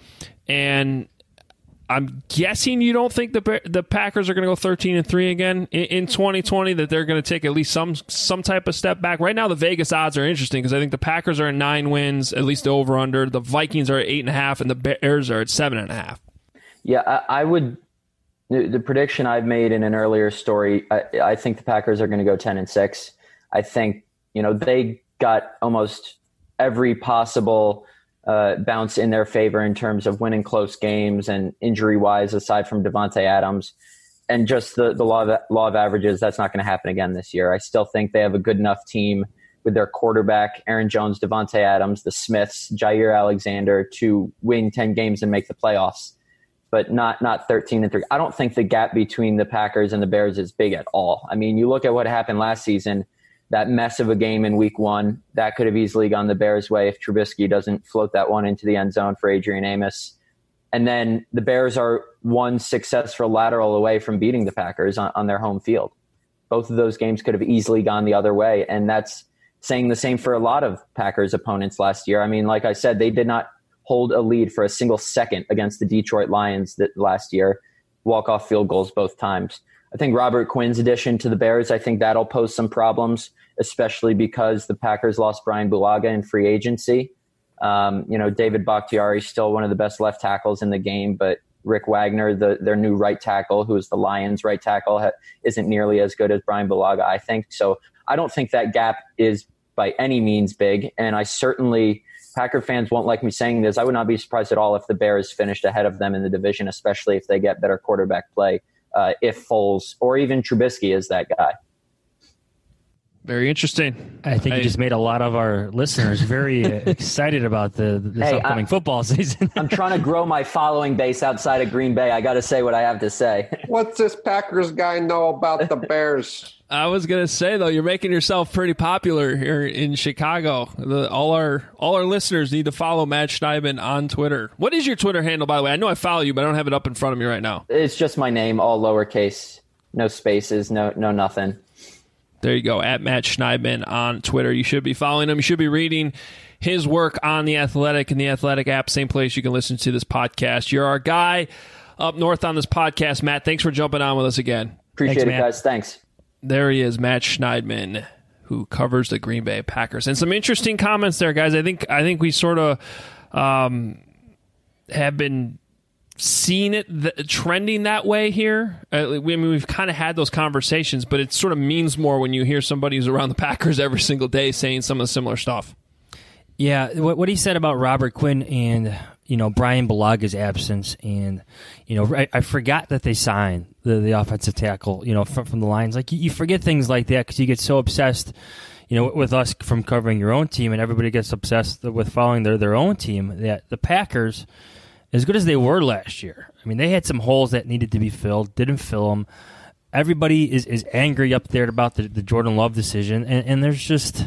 And I'm guessing you don't think the the Packers are going to go thirteen and three again in, in twenty twenty, that they're going to take at least some some type of step back. Right now, the Vegas odds are interesting because I think the Packers are at nine wins, at least the over-under. The Vikings are at eight and a half, and the Bears are at seven and a half. Yeah, I, I would. The prediction I've made in an earlier story, I, I think the Packers are going to go ten and six. I think, you know, they got almost every possible Uh, bounce in their favor in terms of winning close games and injury-wise, aside from Davante Adams. And just the, the law, of, law of averages, that's not going to happen again this year. I still think they have a good enough team with their quarterback, Aaron Jones, Davante Adams, the Smiths, Jair Alexander, to win ten games and make the playoffs, but not not thirteen and three. I don't think the gap between the Packers and the Bears is big at all. I mean, you look at what happened last season, that mess of a game in week one, that could have easily gone the Bears' way if Trubisky doesn't float that one into the end zone for Adrian Amos. And then the Bears are one successful lateral away from beating the Packers on, on their home field. Both of those games could have easily gone the other way. And that's saying the same for a lot of Packers opponents last year. I mean, like I said, they did not hold a lead for a single second against the Detroit Lions that last year, walk-off field goals both times. I think Robert Quinn's addition to the Bears, I think that'll pose some problems, especially because the Packers lost Brian Bulaga in free agency. Um, you know, David Bakhtiari is still one of the best left tackles in the game, but Rick Wagner, the, their new right tackle, who is the Lions' right tackle, ha- isn't nearly as good as Brian Bulaga, I think. So I don't think that gap is by any means big, and I certainly, Packer fans won't like me saying this, I would not be surprised at all if the Bears finished ahead of them in the division, especially if they get better quarterback play, uh, if Foles or even Trubisky is that guy. Very interesting. I think I, you just made a lot of our listeners very uh, excited about the this hey, upcoming I, football season. I'm trying to grow my following base outside of Green Bay. I got to say what I have to say. What's this Packers guy know about the Bears? I was gonna say though, you're making yourself pretty popular here in Chicago. The, all our all our listeners need to follow Matt Schneidman on Twitter. What is your Twitter handle, by the way? I know I follow you, but I don't have it up in front of me right now. It's just my name, all lowercase, no spaces, no no nothing. There you go, at Matt Schneidman on Twitter. You should be following him. You should be reading his work on The Athletic and The Athletic app, same place you can listen to this podcast. You're our guy up north on this podcast, Matt. Thanks for jumping on with us again. Appreciate Thanks, it, Matt. guys. Thanks. There he is, Matt Schneidman, who covers the Green Bay Packers. And some interesting comments there, guys. I think I think we sort of um, have been seeing it th- trending that way here. Uh, we, I mean, we've kind of had those conversations, but it sort of means more when you hear somebody who's around the Packers every single day saying some of the similar stuff. Yeah, what, what he said about Robert Quinn and, you know, Brian Bulaga's absence, and, you know, I, I forgot that they signed the, the offensive tackle, you know, from, from the Lions. Like, you, you forget things like that because you get so obsessed, you know, with us from covering your own team, and everybody gets obsessed with following their, their own team, that the Packers, as good as they were last year, I mean, they had some holes that needed to be filled, didn't fill them. Everybody is, is angry up there about the, the Jordan Love decision, and, and there's just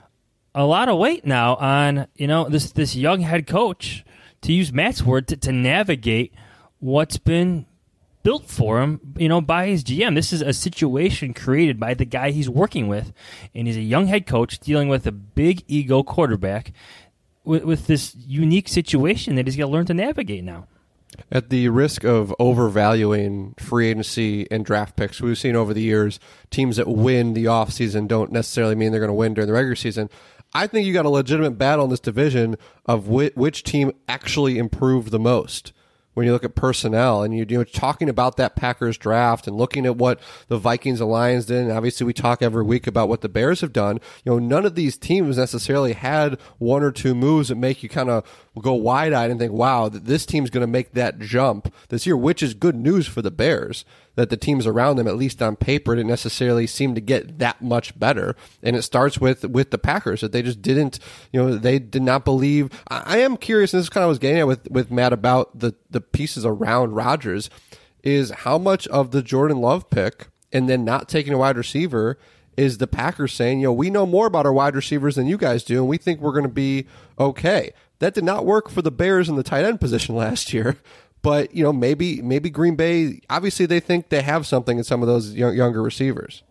a lot of weight now on, you know, this this young head coach, to use Matt's word, to, to navigate what's been built for him, you know, by his G M. This is a situation created by the guy he's working with, and he's a young head coach dealing with a big ego quarterback with, with this unique situation that he's got to learn to navigate now. At the risk of overvaluing free agency and draft picks, we've seen over the years teams that win the offseason don't necessarily mean they're going to win during the regular season. I think you got a legitimate battle in this division of which, which team actually improved the most. When you look at personnel and you, you know, talking about that Packers draft and looking at what the Vikings and Lions did, and obviously we talk every week about what the Bears have done, you know, none of these teams necessarily had one or two moves that make you kind of go wide-eyed and think, wow, this team's going to make that jump this year, which is good news for the Bears, that the teams around them, at least on paper, didn't necessarily seem to get that much better. And it starts with with the Packers, that they just didn't, you know, they did not believe. I, I am curious, and this is kind of what I was getting at with, with Matt about the, the pieces around Rodgers, is how much of the Jordan Love pick and then not taking a wide receiver is the Packers saying, you know, we know more about our wide receivers than you guys do, and we think we're going to be okay. That did not work for the Bears in the tight end position last year. But, you know, maybe maybe Green Bay, obviously they think they have something in some of those young, younger receivers.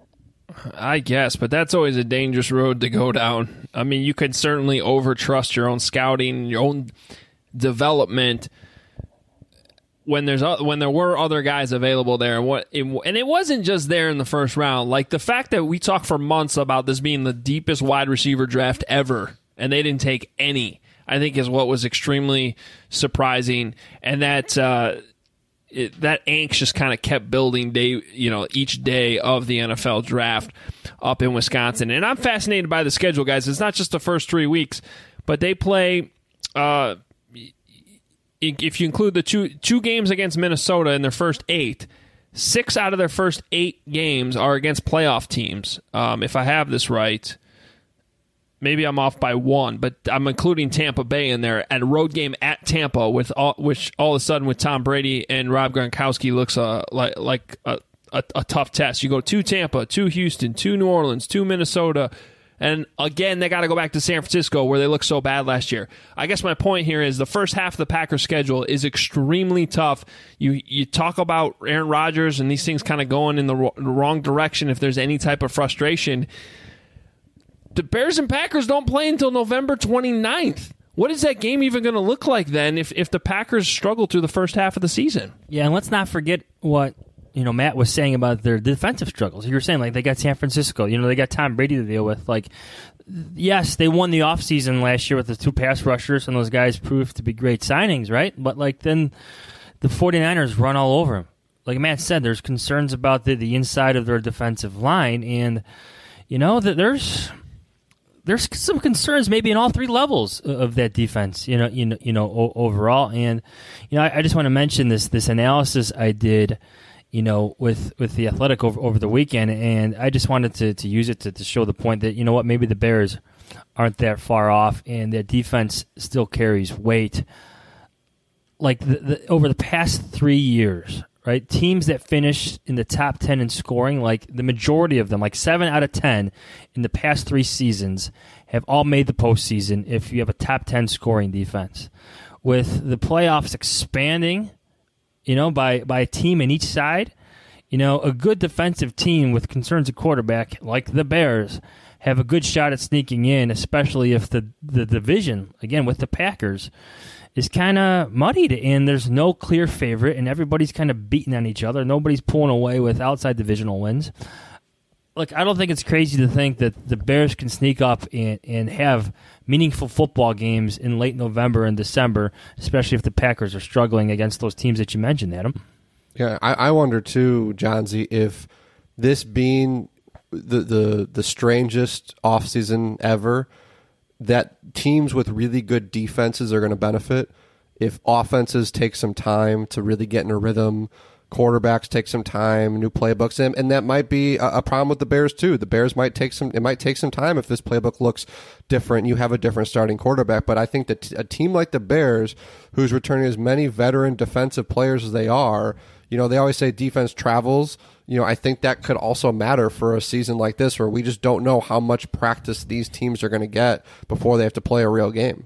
I guess, but that's always a dangerous road to go down. I mean, you could certainly overtrust your own scouting, your own development when there's when there were other guys available there. And what it, and it wasn't just there in the first round. Like the fact that we talked for months about this being the deepest wide receiver draft ever, and they didn't take any, I think is what was extremely surprising, and that uh, it, that angst just kind of kept building day, you know, each day of the N F L draft up in Wisconsin. And I'm fascinated by the schedule, guys. It's not just the first three weeks, but they play. Uh, if you include the two two games against Minnesota in their first eight, six out of their first eight games are against playoff teams. Um, if I have this right. Maybe I'm off by one, but I'm including Tampa Bay in there, and a road game at Tampa, with all, which all of a sudden with Tom Brady and Rob Gronkowski looks uh, like like a, a, a tough test. You go to Tampa, to Houston, to New Orleans, to Minnesota, And again, they got to go back to San Francisco where they looked so bad last year. I guess my point here is the first half of the Packers schedule is extremely tough. You you talk about Aaron Rodgers and these things kind of going in the, ro- the wrong direction if there's any type of frustration. The Bears and Packers don't play until November twenty-ninth. What is that game even going to look like then if, if the Packers struggle through the first half of the season? Yeah, and let's not forget what you know Matt was saying about their defensive struggles. You were saying, like, they got San Francisco. You know, they got Tom Brady to deal with. Like, yes, they won the offseason last year with the two pass rushers, and those guys proved to be great signings, right? But, like, then the 49ers run all over them. Like Matt said, there's concerns about the, the inside of their defensive line, and, you know, that there's... There's some concerns maybe in all three levels of that defense, you know, you know, you know, o- overall. And, you know, I, I just want to mention this this analysis I did, you know, with, with the Athletic over, over the weekend, and I just wanted to, to use it to, to show the point that, you know what, maybe the Bears aren't that far off, and that defense still carries weight. Like the, the, over the past three years, right? Teams that finished in the top ten in scoring, like the majority of them, like seven out of ten in the past three seasons, have all made the postseason if you have a top ten scoring defense. With the playoffs expanding, you know, by, by a team in each side, you know, a good defensive team with concerns at quarterback, like the Bears, have a good shot at sneaking in, especially if the, the division, again, with the Packers, is kind of muddied, and there's no clear favorite, and everybody's kind of beating on each other. Nobody's pulling away with outside divisional wins. Look, I don't think it's crazy to think that the Bears can sneak up and, and have meaningful football games in late November and December, especially if the Packers are struggling against those teams that you mentioned, Adam. Yeah, I, I wonder too, Johnsy, if this being the the, the strangest offseason ever, that teams with really good defenses are going to benefit. If offenses take some time to really get in a rhythm, quarterbacks take some time, new playbooks, and, and that might be a, a problem with the Bears too. The Bears might take some. It might take some time if this playbook looks different. You have a different starting quarterback, but I think that a team like the Bears, who's returning as many veteran defensive players as they are, you know, they always say defense travels. You know, I think that could also matter for a season like this where we just don't know how much practice these teams are going to get before they have to play a real game.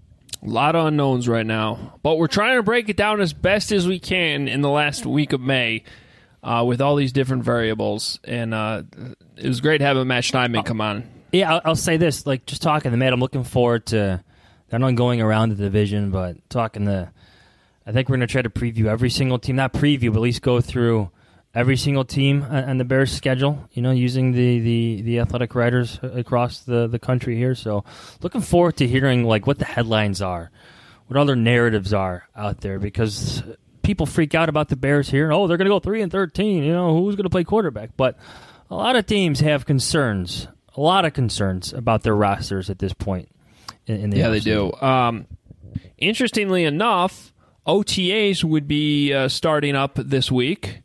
A lot of unknowns right now, but we're trying to break it down as best as we can in the last week of May uh, with all these different variables. And uh, it was great having Matt Schneidman come on. Yeah, I'll, I'll say this, like just talking to Matt, I'm looking forward to not only going around the division, but talking to, I think we're going to try to preview every single team, not preview, but at least go through every single team on the Bears schedule, you know, using the, the, the athletic writers across the, the country here. So looking forward to hearing like what the headlines are, what other narratives are out there, because people freak out about the Bears here. Oh, they're going to go three and thirteen. You know, who's going to play quarterback? But a lot of teams have concerns, a lot of concerns about their rosters at this point. In, in the yeah, they do. Um, interestingly enough, O T As would be uh, starting up this week.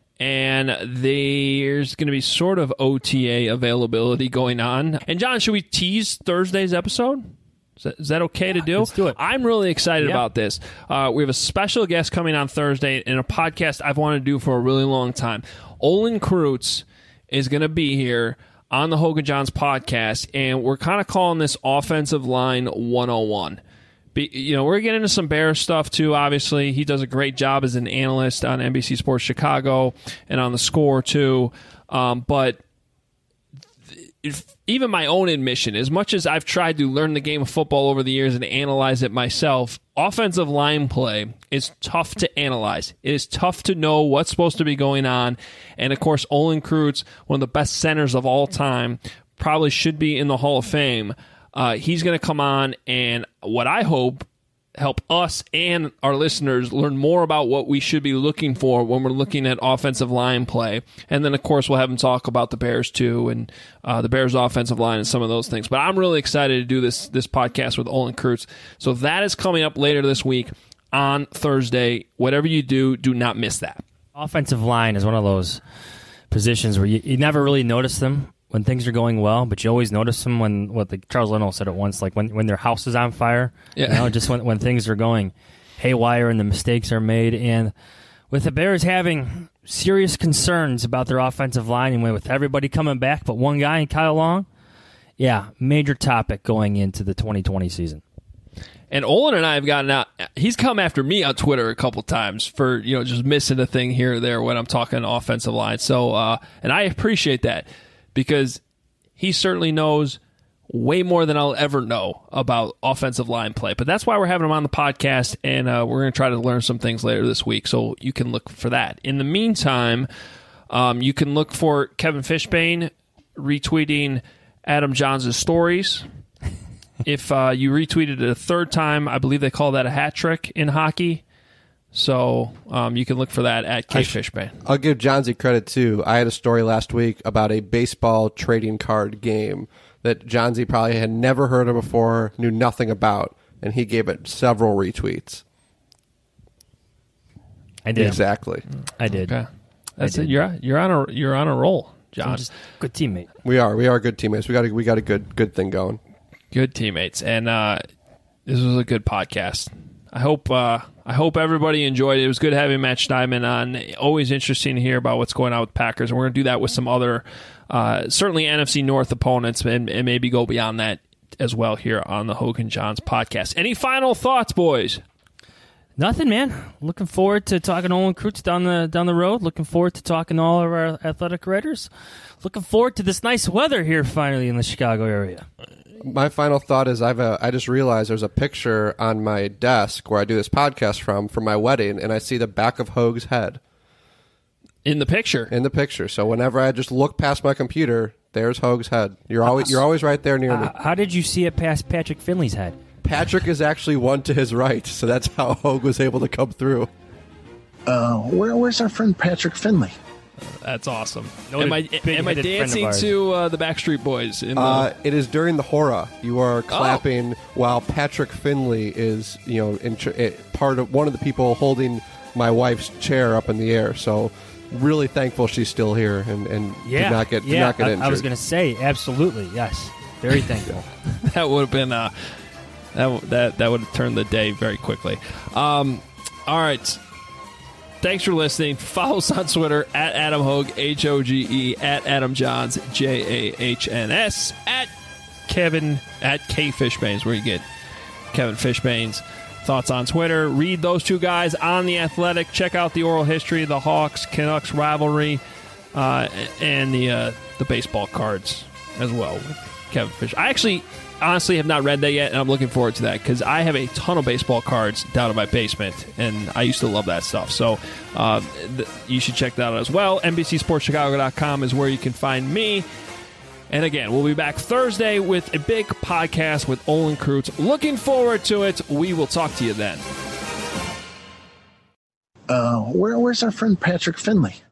And there's going to be sort of O T A availability going on. And, John, should we tease Thursday's episode? Is that, is that okay to do? Let's do it. I'm really excited yeah. about this. Uh, we have a special guest coming on Thursday in a podcast I've wanted to do for a really long time. Olin Kreutz is going to be here on the Hogan Johns podcast, and we're kind of calling this Offensive Line one oh one. Be, you know, we're getting into some Bears stuff, too, obviously. He does a great job as an analyst on N B C Sports Chicago and on The Score, too. Um, but if, even my own admission, as much as I've tried to learn the game of football over the years and analyze it myself, offensive line play is tough to analyze. It is tough to know what's supposed to be going on. And, of course, Olin Kreutz, one of the best centers of all time, probably should be in the Hall of Fame. Uh, he's going to come on and what I hope help us and our listeners learn more about what we should be looking for when we're looking at offensive line play. And then, of course, we'll have him talk about the Bears, too, and uh, the Bears' offensive line and some of those things. But I'm really excited to do this this podcast with Olin Kreutz. So that is coming up later this week on Thursday. Whatever you do, do not miss that. Offensive line is one of those positions where you, you never really notice them when things are going well, but you always notice them when, what the Charles Leno said it once, like when, when their house is on fire, yeah. you know, just when, when things are going haywire and the mistakes are made. And with the Bears having serious concerns about their offensive line, and with everybody coming back but one guy, Kyle Long, yeah, major topic going into the twenty twenty season. And Olin and I have gotten out. He's come after me on Twitter a couple times for, you know, just missing a thing here or there when I'm talking offensive line. So, uh, and I appreciate that because he certainly knows way more than I'll ever know about offensive line play. But that's why we're having him on the podcast, and uh, we're going to try to learn some things later this week. So you can look for that. In the meantime, um, you can look for Kevin Fishbane retweeting Adam Johns' stories. If uh, you retweeted it a third time, I believe they call that a hat trick in hockey. So um, you can look for that at K Fishbane. I'll give Johnsy credit, too. I had a story last week about a baseball trading card game that Johnsy probably had never heard of before, knew nothing about, and he gave it several retweets. I did. Exactly. I did. Okay. That's I it. did. You're you're on a you're on a roll, John. I'm just a good teammate. We are. We are good teammates. We got a, we got a good good thing going. Good teammates, and uh, this was a good podcast. I hope uh, I hope everybody enjoyed it. It was good having Matt Schneidman on. Always interesting to hear about what's going on with Packers, and we're going to do that with some other, uh, certainly N F C North opponents, and, and maybe go beyond that as well here on the Hogan Johns podcast. Any final thoughts, boys? Nothing, man. Looking forward to talking to Olin Kreutz down the down the road. Looking forward to talking to all of our athletic writers. Looking forward to this nice weather here finally in the Chicago area. My final thought is I've a, I just realized there's a picture on my desk where I do this podcast from for my wedding, and I see the back of Hoag's head in the picture. In the picture. So whenever I just look past my computer, there's Hoag's head. You're always you're always right there near uh, me. How did you see it past Patrick Finley's head? Patrick is actually one to his right, so that's how Hoag was able to come through. Uh, where where's our friend Patrick Finley? That's awesome. No, am I, big am I headed friend of dancing ours. to uh, the Backstreet Boys? In the... Uh, it is during the hora. You are clapping while Patrick Finley is, you know, in ch- it, part of one of the people holding my wife's chair up in the air. So, really thankful she's still here and, and Yeah, did not get did yeah. not get I, injured. I was going to say absolutely yes. Very thankful. that would have been uh, that that that would have turned the day very quickly. Um, all right. Thanks for listening. Follow us on Twitter at Adam Hogue, H O G E, at Adam Johns, J A H N S, at Kevin, at K Fishbanes, where you get Kevin Fishbane's thoughts on Twitter. Read those two guys on The Athletic. Check out the oral history of the Hawks-Canucks rivalry uh, and the uh, the baseball cards as well with Kevin Fish. I actually... honestly have not read that yet, and I'm looking forward to that because I have a ton of baseball cards down in my basement, and I used to love that stuff. So uh, th- you should check that out as well. N B C Sports Chicago dot com is where you can find me. And again, we'll be back Thursday with a big podcast with Olin Kreutz. Looking forward to it. We will talk to you then. Uh, where where's our friend Patrick Finley?